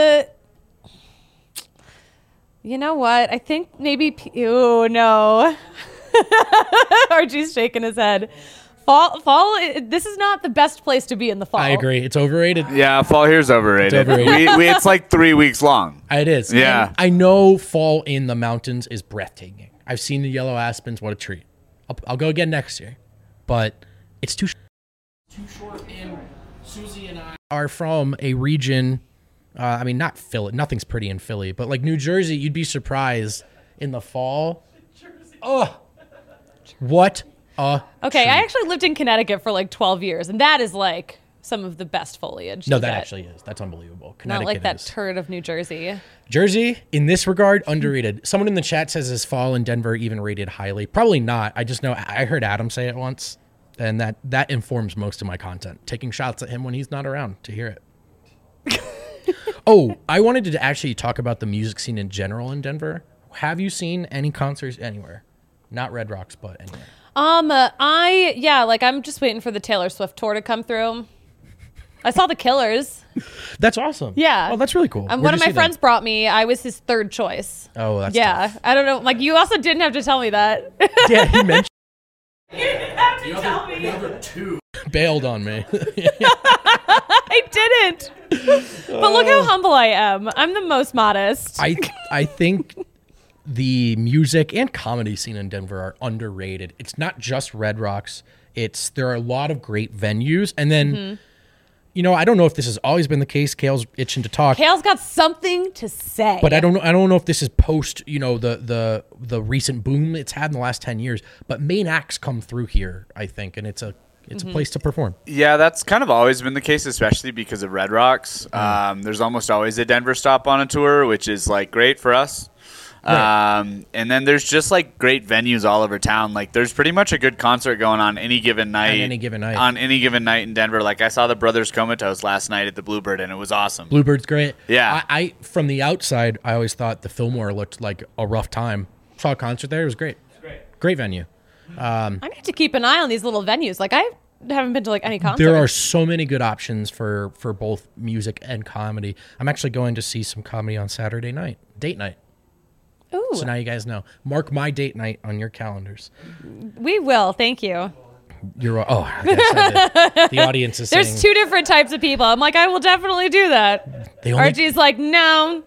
you know what? I think maybe, oh no. Archie's shaking his head. Fall, this is not the best place to be in the fall. I agree. It's overrated. Yeah, fall here's overrated. It's overrated. It's like 3 weeks long. It is. Yeah. And I know fall in the mountains is breathtaking. I've seen the yellow aspens. What a treat. I'll go again next year. But it's too short. And Susie and I are from a region, I mean, not Philly. Nothing's pretty in Philly. But like New Jersey, you'd be surprised in the fall. Oh, what a Okay, treat. I actually lived in Connecticut for like 12 years, and that is like some of the best foliage. No, you that get. actually is. That's unbelievable. Not Connecticut like that is. turd of New Jersey. Jersey, in this regard, underrated. Someone in the chat says, is fall in Denver even rated highly? Probably not. I just know I heard Adam say it once, and that informs most of my content. Taking shots at him when he's not around to hear it. Oh, I wanted to actually talk about the music scene in general in Denver. Have you seen any concerts anywhere? Not Red Rocks, but anywhere. I'm just waiting for the Taylor Swift tour to come through. I saw the Killers. That's awesome. Yeah. Oh, that's really cool. One Where'd of you my see friends them? brought me. I was his third choice. Oh, that's Yeah. tough. I don't know. Like, you also didn't have to tell me that. Yeah, he mentioned You didn't have to tell me. Two. bailed on me. I didn't. But look how humble I am. I'm the most modest. I think the music and comedy scene in Denver are underrated. It's not just Red Rocks. There are a lot of great venues. And then, you know, I don't know if this has always been the case. Kale's itching to talk. Kale's got something to say. But I don't know if this is post, you know, the recent boom it's had in the last 10 years. But main acts come through here, I think, and it's a place to perform. Yeah, that's kind of always been the case, especially because of Red Rocks. There's almost always a Denver stop on a tour, which is like great for us. Right. And then there's just like great venues all over town. Like there's pretty much a good concert going on any given night. On any given night. On any given night in Denver. Like I saw the Brothers Comatose last night at the Bluebird, and it was awesome. Bluebird's great. Yeah. I from the outside, I always thought the Fillmore looked like a rough time. Saw a concert there. It was great. Great venue. I need to keep an eye on these little venues. Like, I haven't been to like any concerts. There are so many good options for both music and comedy. I'm actually going to see some comedy on Saturday night, date night. Ooh, So now you guys know. Mark my date night on your calendars. we will. Thank you. You're I got excited. The audience is There's saying two different types of people. I'm like, I will definitely do that. the only Archie's like, no.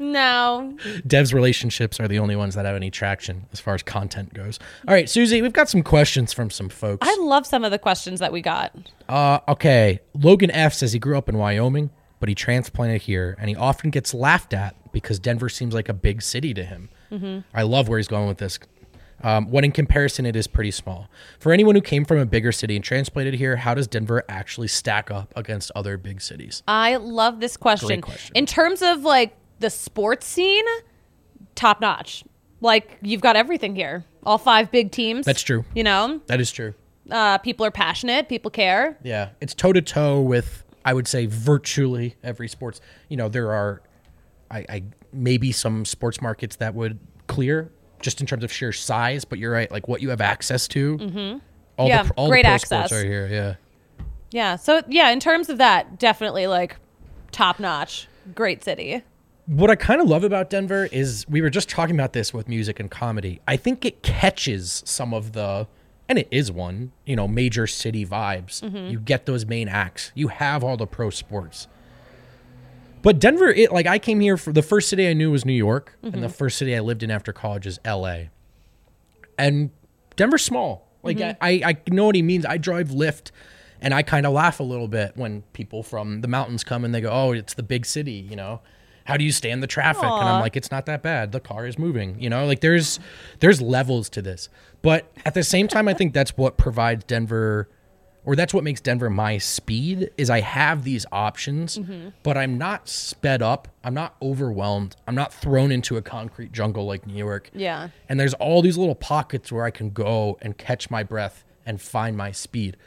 Dev's relationships are the only ones that have any traction as far as content goes. All right, Susie, we've got some questions from some folks. I love some of the questions that we got. Okay. Logan F says he grew up in Wyoming, but he transplanted here, and he often gets laughed at because Denver seems like a big city to him. I love where he's going with this. When in comparison, it is pretty small. For anyone who came from a bigger city and transplanted here, how does Denver actually stack up against other big cities? I love this question. Great question. In terms of like the sports scene, top notch. Like, you've got everything here. All 5 big teams. That's true. You know, That is true. people are passionate. People care. Yeah. It's toe-to-toe with, I would say, virtually every sports. You know, there are I maybe some sports markets that would clear just in terms of sheer size, but you're right. Like what you have access to. All Yeah, the great pro access. sports are here. Yeah. Yeah. So, yeah, in terms of that, definitely like top notch. Great city. What I kind of love about Denver is we were just talking about this with music and comedy. I think it catches some of the, and it is one, you know, major city vibes. You get those main acts. You have all the pro sports. But Denver, like I came here for the first city I knew was New York, and the first city I lived in after college is LA. And Denver's small. Like I know what he means. I drive Lyft, and I kind of laugh a little bit when people from the mountains come and they go, "Oh, it's the big city," you know. How do you stand the traffic? And I'm like, it's not that bad. The car is moving, you know, like there's levels to this. But at the same time, I think that's what provides Denver, or that's what makes Denver my speed, is I have these options, but I'm not sped up. I'm not overwhelmed. I'm not thrown into a concrete jungle like New York. Yeah. And there's all these little pockets where I can go and catch my breath and find my speed.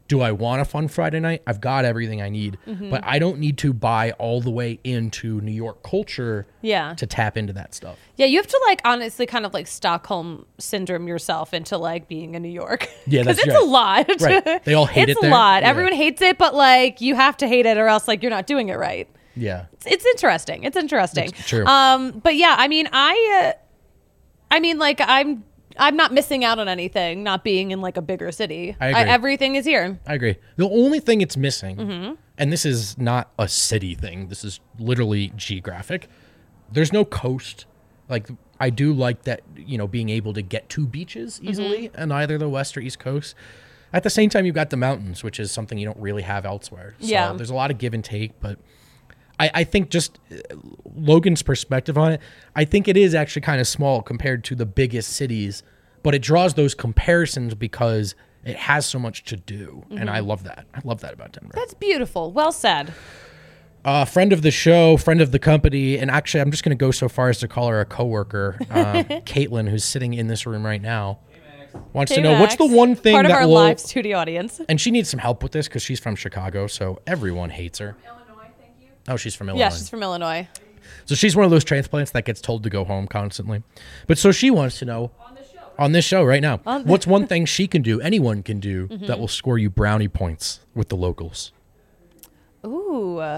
Do I want a fun Friday night? I've got everything I need, but I don't need to buy all the way into New York culture Yeah. to tap into that stuff. Yeah, you have to like honestly kind of like Stockholm syndrome yourself into like being in New York. Yeah, that's it's right. a lot. Right. They all hate it's it there. a lot. Yeah. Everyone hates it, but like you have to hate it or else like you're not doing it right. Yeah. It's interesting. It's interesting. It's true. But yeah, I mean, like I'm not missing out on anything not being in like a bigger city. I agree. Everything is here. I agree. The only thing it's missing, and this is not a city thing, this is literally geographic. There's no coast. Like, I do like that, being able to get to beaches easily on either the west or east coast. At the same time, you've got the mountains, which is something you don't really have elsewhere. So Yeah. there's a lot of give and take, but I think just Logan's perspective on it, I think it is actually kind of small compared to the biggest cities, but it draws those comparisons because it has so much to do. And I love that. I love that about Denver. That's beautiful. Well said. Friend of the show, friend of the company, and actually I'm just going to go so far as to call her a coworker, Caitlin, who's sitting in this room right now, wants to know what's the one thing part of that our will, live studio audience. and she needs some help with this because she's from Chicago, so everyone hates her. Oh, she's from Illinois. Yeah, she's from Illinois. So she's one of those transplants that gets told to go home constantly. But so she wants to know on this show right now, what's one thing she can do, anyone can do, that will score you brownie points with the locals? Ooh.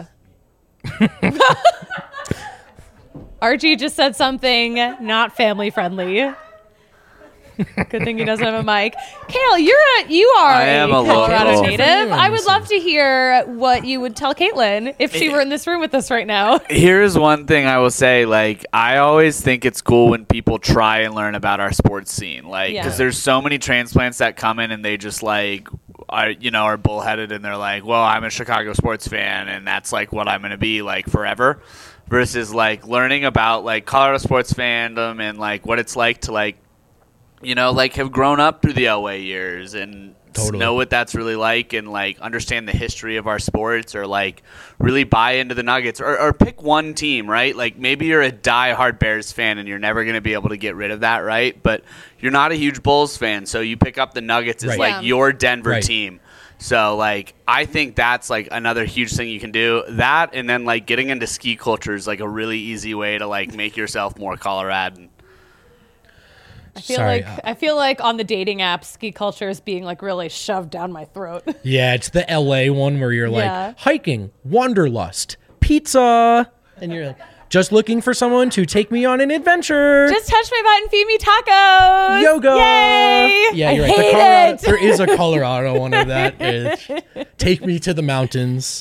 Archie just said something not family friendly. Good thing he doesn't have a mic. Kale, you are I am a Colorado local. native. I would love to hear what you would tell Caitlin if she were in this room with us right now. Here's one thing I will say, like, I always think it's cool when people try and learn about our sports scene, like, because Yeah. there's so many transplants that come in and they just like are bullheaded and they're like, well, I'm a Chicago sports fan and that's like what I'm gonna be like forever, versus like learning about like Colorado sports fandom and like what it's like to like have grown up through the LA years and Totally. know what that's really like and like understand the history of our sports or like really buy into the Nuggets or pick one team, right? Like maybe you're a diehard Bears fan and you're never going to be able to get rid of that, right? But you're not a huge Bulls fan, so you pick up the Nuggets as Right. like Yeah. your Denver Right. team. So like I think that's like another huge thing you can do. That and then like getting into ski culture is like a really easy way to like make yourself more Coloradan. I feel like on the dating app, ski culture is being like really shoved down my throat. Yeah, it's the LA one where you're like Yeah. hiking, wanderlust, pizza, and you're like just looking for someone to take me on an adventure. Just touch my butt and feed me tacos. Yoga. Yay! Yeah, I you're hate right. Colorado, it. there is a Colorado one of that. It's, take me to the mountains.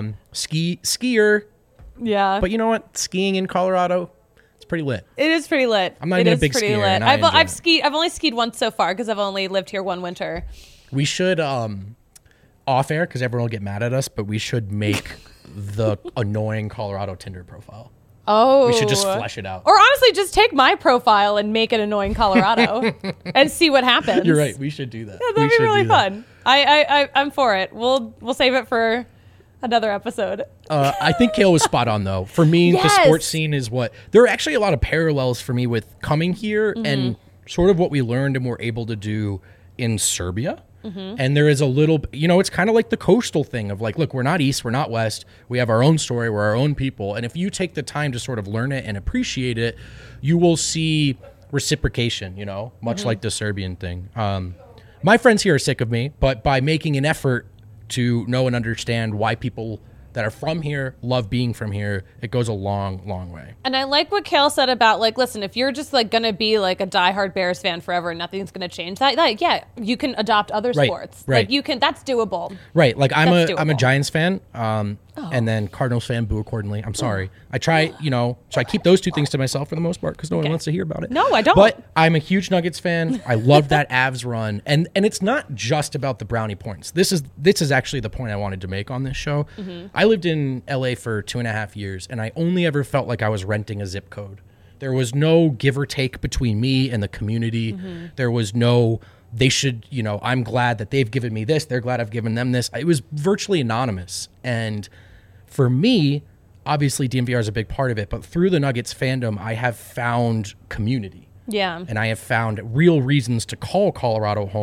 Skier. Yeah, But you know what? Skiing in Colorado, it's pretty lit. it is pretty lit. I'm not It even a is big pretty skier, lit. and I enjoy I've it. skied. I've only skied once so far because I've only lived here one winter. We should off air because everyone will get mad at us, but we should make the annoying Colorado Tinder profile. Oh, We should just flesh it out. Or honestly, just take my profile and make it annoying Colorado and see what happens. You're right. We should do that. That'd be really fun. I'm for it. We'll save it for another episode. I think Kale was spot on though. For me, the Yes. sports scene is what there are actually a lot of parallels for me with coming here and sort of what we learned and were able to do in Serbia. And there is a little, it's kind of like the coastal thing of like, look, we're not East, we're not West. We have our own story, we're our own people. And if you take the time to sort of learn it and appreciate it, you will see reciprocation, much like the Serbian thing. My friends here are sick of me, but by making an effort to know and understand why people that are from here love being from here, it goes a long, long way. And I like what Kale said about like, listen, if you're just like gonna be like a diehard Bears fan forever and nothing's gonna change that, yeah, you can adopt other Right, sports. right. Like you can, that's doable. Right. Like I'm That's a doable. Giants fan, and then Cardinals fan, boo accordingly. I'm sorry. I try, so I keep those two things to myself for the most part because no one wants to hear about it. No, I don't. But I'm a huge Nuggets fan. I love that Avs run, and it's not just about the brownie points. This is actually the point I wanted to make on this show. I lived in LA for 2.5 years, and I only ever felt like I was renting a zip code. There was no give or take between me and the community. There was no, they should, I'm glad that they've given me this. They're glad I've given them this. It was virtually anonymous. And for me, obviously DNVR is a big part of it, but through the Nuggets fandom, I have found community. Yeah. And I have found real reasons to call Colorado home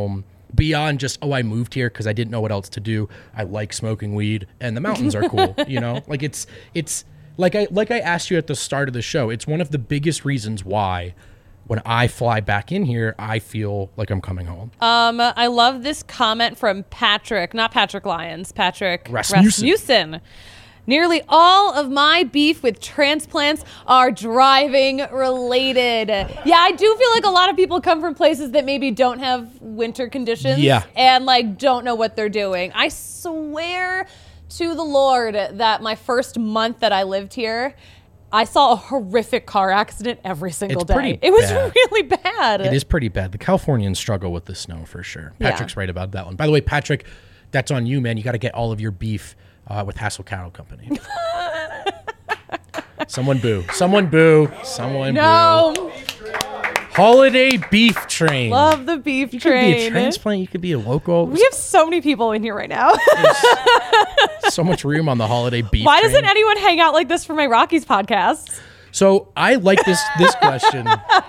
beyond just, oh, I moved here because I didn't know what else to do. I like smoking weed and the mountains are cool. Like it's like I asked you at the start of the show. It's one of the biggest reasons why when I fly back in here, I feel like I'm coming home. I love this comment from Patrick, not Patrick Lyons, Patrick Rasmussen. Nearly all of my beef with transplants are driving related. Yeah, I do feel like a lot of people come from places that maybe don't have winter conditions and like don't know what they're doing. I swear to the Lord that my first month that I lived here, I saw a horrific car accident every single day. It was really bad. It is pretty bad. The Californians struggle with the snow for sure. Patrick's right about that one. By the way, Patrick, that's on you, man. You got to get all of your beef with Hassel Cattle Company. Someone boo. Someone boo. Someone boo. Holiday beef train. Love the beef train. You could be a transplant. You could be a local. We have so many people in here right now. So much room on the holiday beef Why train. doesn't anyone hang out like this for my Rockies podcast? So I like this question.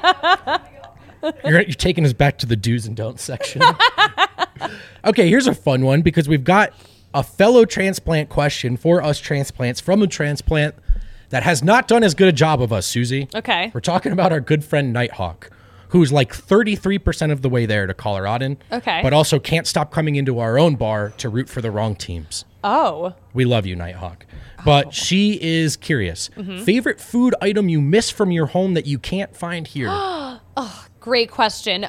You're taking us back to the do's and don'ts section. Okay, here's a fun one because we've got a fellow transplant question for us transplants from a transplant that has not done as good a job of us, Susie. Okay. We're talking about our good friend Nighthawk, who's like 33% of the way there to Colorado. Okay. But also can't stop coming into our own bar to root for the wrong teams. Oh. We love you, Nighthawk. But she is curious. Favorite food item you miss from your home that you can't find here? Great question.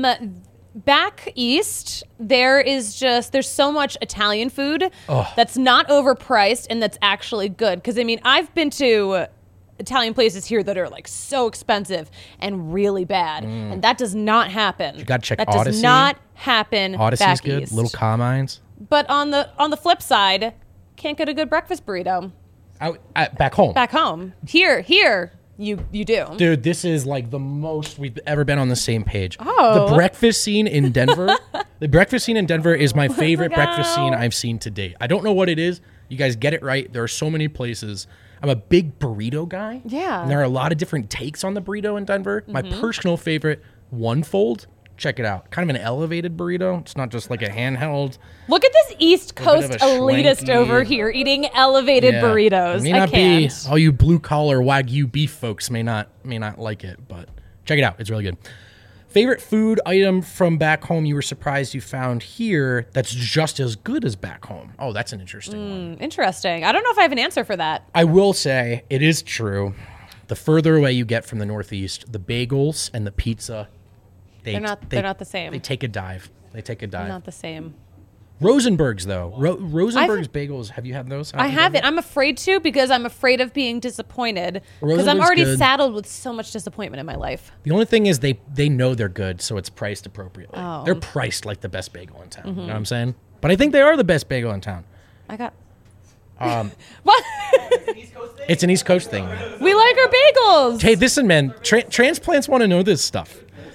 Back east, there's so much Italian food that's not overpriced and that's actually good. Because, I mean, I've been to Italian places here that are like so expensive and really bad. And that does not happen. You got to check that Odyssey. Does not happen Odyssey's back good. east. Little Carmines. But on the flip side, can't get a good breakfast burrito. Back home. Back home. Here, you do. Dude, this is like the most we've ever been on the same page. Oh. The breakfast scene in Denver. The breakfast scene in Denver is my favorite Look breakfast scene out. I've seen to date. I don't know what it is. You guys get it right. There are so many places. I'm a big burrito guy. Yeah. And there are a lot of different takes on the burrito in Denver. My personal favorite, One Fold. Check it out. Kind of an elevated burrito. It's not just like a handheld. Look at this East bit Coast of a elitist schwanky- over here eating elevated burritos. May I not can't. be all you blue collar Wagyu beef folks may not like it, but check it out. It's really good. Favorite food item from back home you were surprised you found here that's just as good as back home? Oh, that's an interesting one. Interesting. I don't know if I have an answer for that. I will say it is true. The further away you get from the Northeast, the bagels and the pizza, They're not the same. They take a dive. Not the same. Rosenberg's though. Rosenberg's bagels. Have you had those? I haven't. I'm afraid to because I'm afraid of being disappointed because I'm Rosenberg's already good. saddled with so much disappointment in my life. The only thing is they know they're good, so it's priced appropriately. Oh. They're priced like the best bagel in town. You know what I'm saying? But I think they are the best bagel in town. I got. What? It's an East Coast thing, man. We like our bagels. Hey, listen, man. Transplants want to know this stuff.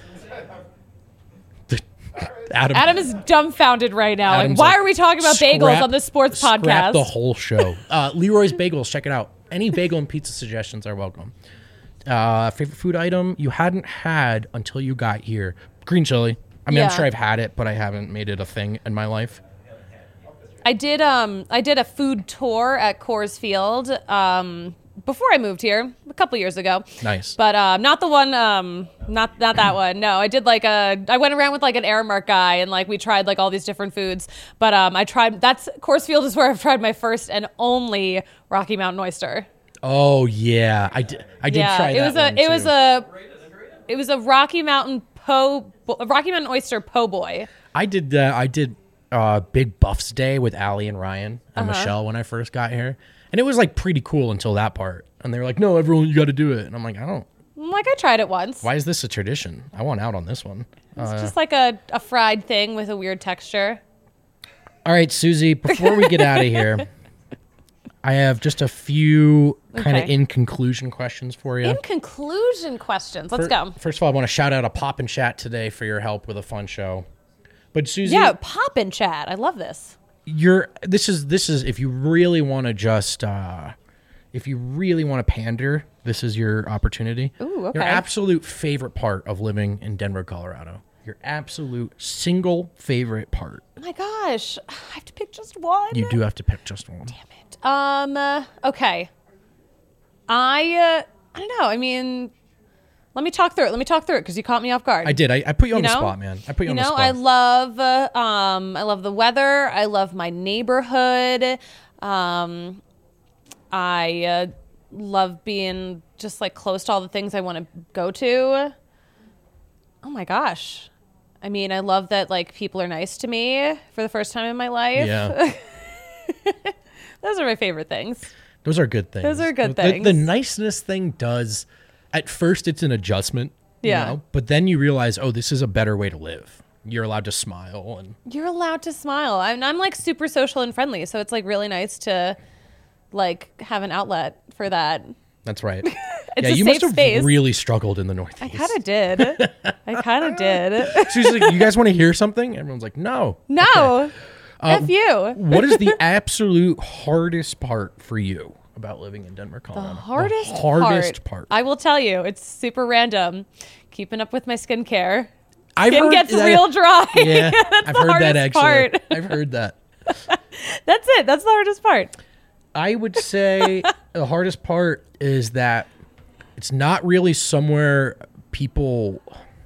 Adam is dumbfounded right now. Adam's Why like, are we talking about bagels on the sports Scrap podcast? the whole show. Leroy's Bagels. Check it out. Any bagel and pizza suggestions are welcome. Favorite food item you hadn't had until you got here? Green chili. I mean, I'm Yeah. sure I've had it, but I haven't made it a thing in my life. I did a food tour at Coors Field before I moved here a couple years ago. Nice. But not the one not that one. No, I did I went around with like an Aramark guy and like we tried like all these different foods. But Coors Field is where I've tried my first and only Rocky Mountain oyster. Oh yeah, I did try that one It was a Rocky Mountain oyster po' boy. I did Big Buffs Day with Allie and Ryan and Michelle when I first got here, and it was like pretty cool until that part. And they were like, "No, everyone, you got to do it." And I'm like, I tried it once. Why is this a tradition? I want out on this one. It's just like a fried thing with a weird texture. All right, Susie. Before we get out of here, I have just a few kind of Okay. in conclusion questions for you. In conclusion questions. Let's go. First of all, I want to shout out a Pop and Chat today for your help with a fun show. But Susie, Yeah, pop in chat. I love this. this is if you really want to just if you really want to pander, this is your opportunity. Ooh, okay. Your absolute favorite part of living in Denver, Colorado. Your absolute single favorite part. Oh my gosh, I have to pick just one. You do have to pick just one. Okay. I don't know. I mean, let me talk through it because you caught me off guard. I did. I put you on the know? spot, man. I put you on the spot. I love the weather. I love my neighborhood. I love being just like close to all the things I want to go to. Oh my gosh. I mean, I love that like people are nice to me for the first time in my life. Yeah. Those are my favorite things. Those are good things. Those are good The things. niceness thing does, at first it's an adjustment. Yeah. You know, but then you realize, oh, this is a better way to live. You're allowed to smile. And You're allowed to smile. I'm like super social and friendly. So it's like really nice to like have an outlet for that. that's right. It's yeah, a you safe must have space. really struggled in the Northeast. I kind of did. She's like, you guys want to hear something? Everyone's like, no. No. F you. What is the absolute hardest part for you about living in Denver, Colorado? The hardest part. I will tell you, it's super random. Keeping up with my skincare. I've Skin heard gets that- real dry. Yeah, That's I've the heard that hardest actually. part. I've heard that. That's it. That's the hardest part. I would say the hardest part is that it's not really somewhere people.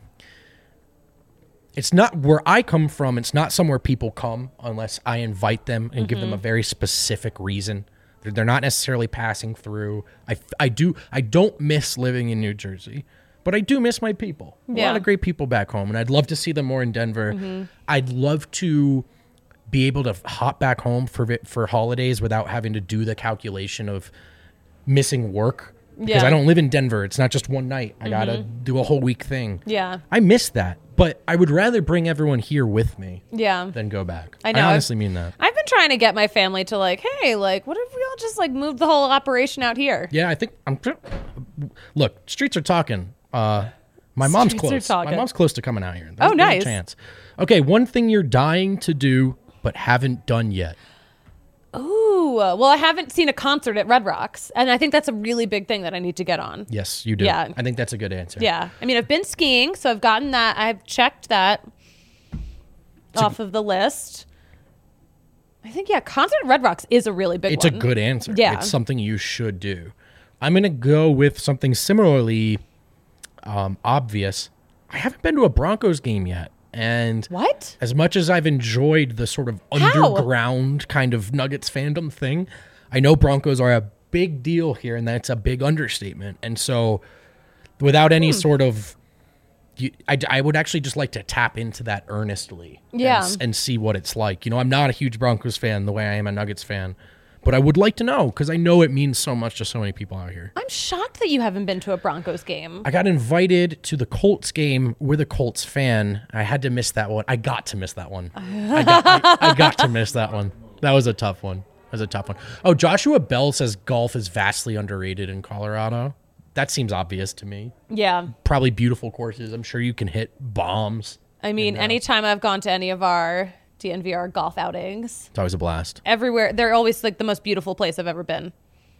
It's not where I come from. It's not somewhere people come unless I invite them and give them a very specific reason. They're not necessarily passing through. I don't miss living in New Jersey, but I do miss my people. A Yeah. lot of great people back home, and I'd love to see them more in Denver. I'd love to be able to hop back home for holidays without having to do the calculation of missing work. Because Yeah. I don't live in Denver. It's not just one night. I got to do a whole week thing. Yeah. I miss that, but I would rather bring everyone here with me Yeah. than go back. I know. I honestly mean that. I've been trying to get my family to like, hey, like, what if we all just like moved the whole operation out here? Yeah, I think look, streets are talking. My mom's Streets are close. talking. My mom's close to coming out here. Oh, There's a nice. chance. Okay, one thing you're dying to do but haven't done yet. Ooh, well, I haven't seen a concert at Red Rocks, and I think that's a really big thing that I need to get on. Yes, you do. Yeah. I think that's a good answer. Yeah. I mean, I've been skiing, so I've gotten that. I've checked that off of the list. I think, yeah, concert at Red Rocks is a really big It's one. a good answer. Yeah. It's something you should do. I'm going to go with something similarly obvious. I haven't been to a Broncos game yet. And What? as much as I've enjoyed the sort of How? underground kind of Nuggets fandom thing, I know Broncos are a big deal here, and that's a big understatement. And so without any sort of... I would actually just like to tap into that earnestly Yeah. and see what it's like. You know, I'm not a huge Broncos fan the way I am a Nuggets fan, but I would like to know because I know it means so much to so many people out here. I'm shocked that you haven't been to a Broncos game. I got invited to the Colts game with a Colts fan. I had to miss that one. I got to miss that one. I got to miss that one. That was a tough one. Oh, Joshua Bell says golf is vastly underrated in Colorado. That seems obvious to me. Yeah. Probably beautiful courses. I'm sure you can hit bombs. I mean, anytime I've gone to any of our DNVR golf outings, It's always a blast. everywhere, they're always like the most beautiful place I've ever been.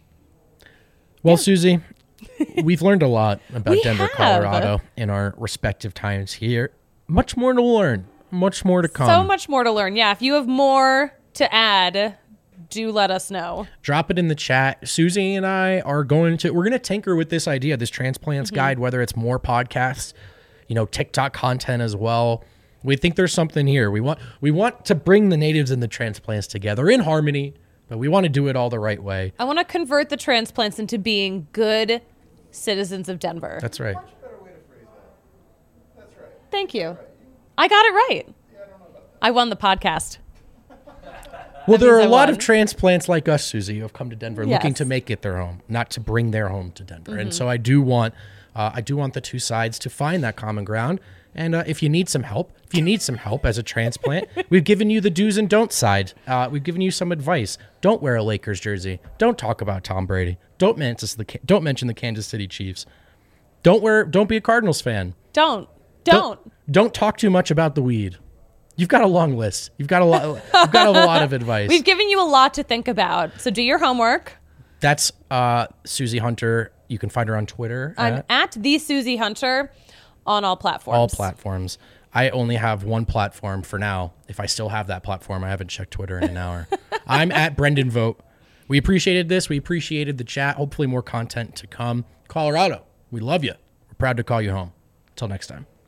Well, Susie, we've learned a lot about We Denver, have. Colorado in our respective times here. Much more to learn. Much more to come. So much more to learn. Yeah. If you have more to add, do let us know. Drop it in the chat. Susie and I are we're going to tinker with this idea, this transplants guide, whether it's more podcasts, TikTok content as well. We think there's something here. We want to bring the natives and the transplants together in harmony, but we want to do it all the right way. I want to convert the transplants into being good citizens of Denver. That's right. Thank you. I got it right. I won the podcast. Well, there are means a I lot won. of transplants like us, Susie, who have come to Denver looking Yes. to make it their home, not to bring their home to Denver. And so I do want the two sides to find that common ground. And if you need some help, as a transplant, we've given you the do's and don'ts side. We've given you some advice. Don't wear a Lakers jersey. Don't talk about Tom Brady. Don't mention the Kansas City Chiefs. Don't be a Cardinals fan. Don't. Don't talk too much about the weed. You've got a long list. You've got a lot of advice. We've given you a lot to think about. So do your homework. That's Susie Hunter. You can find her on Twitter. I'm at the Susie Hunter on all platforms. all platforms. I only have one platform for now. If I still have that platform, I haven't checked Twitter in an hour. I'm at Brendan Vogt. We appreciated this. We appreciated the chat. Hopefully more content to come. Colorado, we love you. We're proud to call you home. Until next time.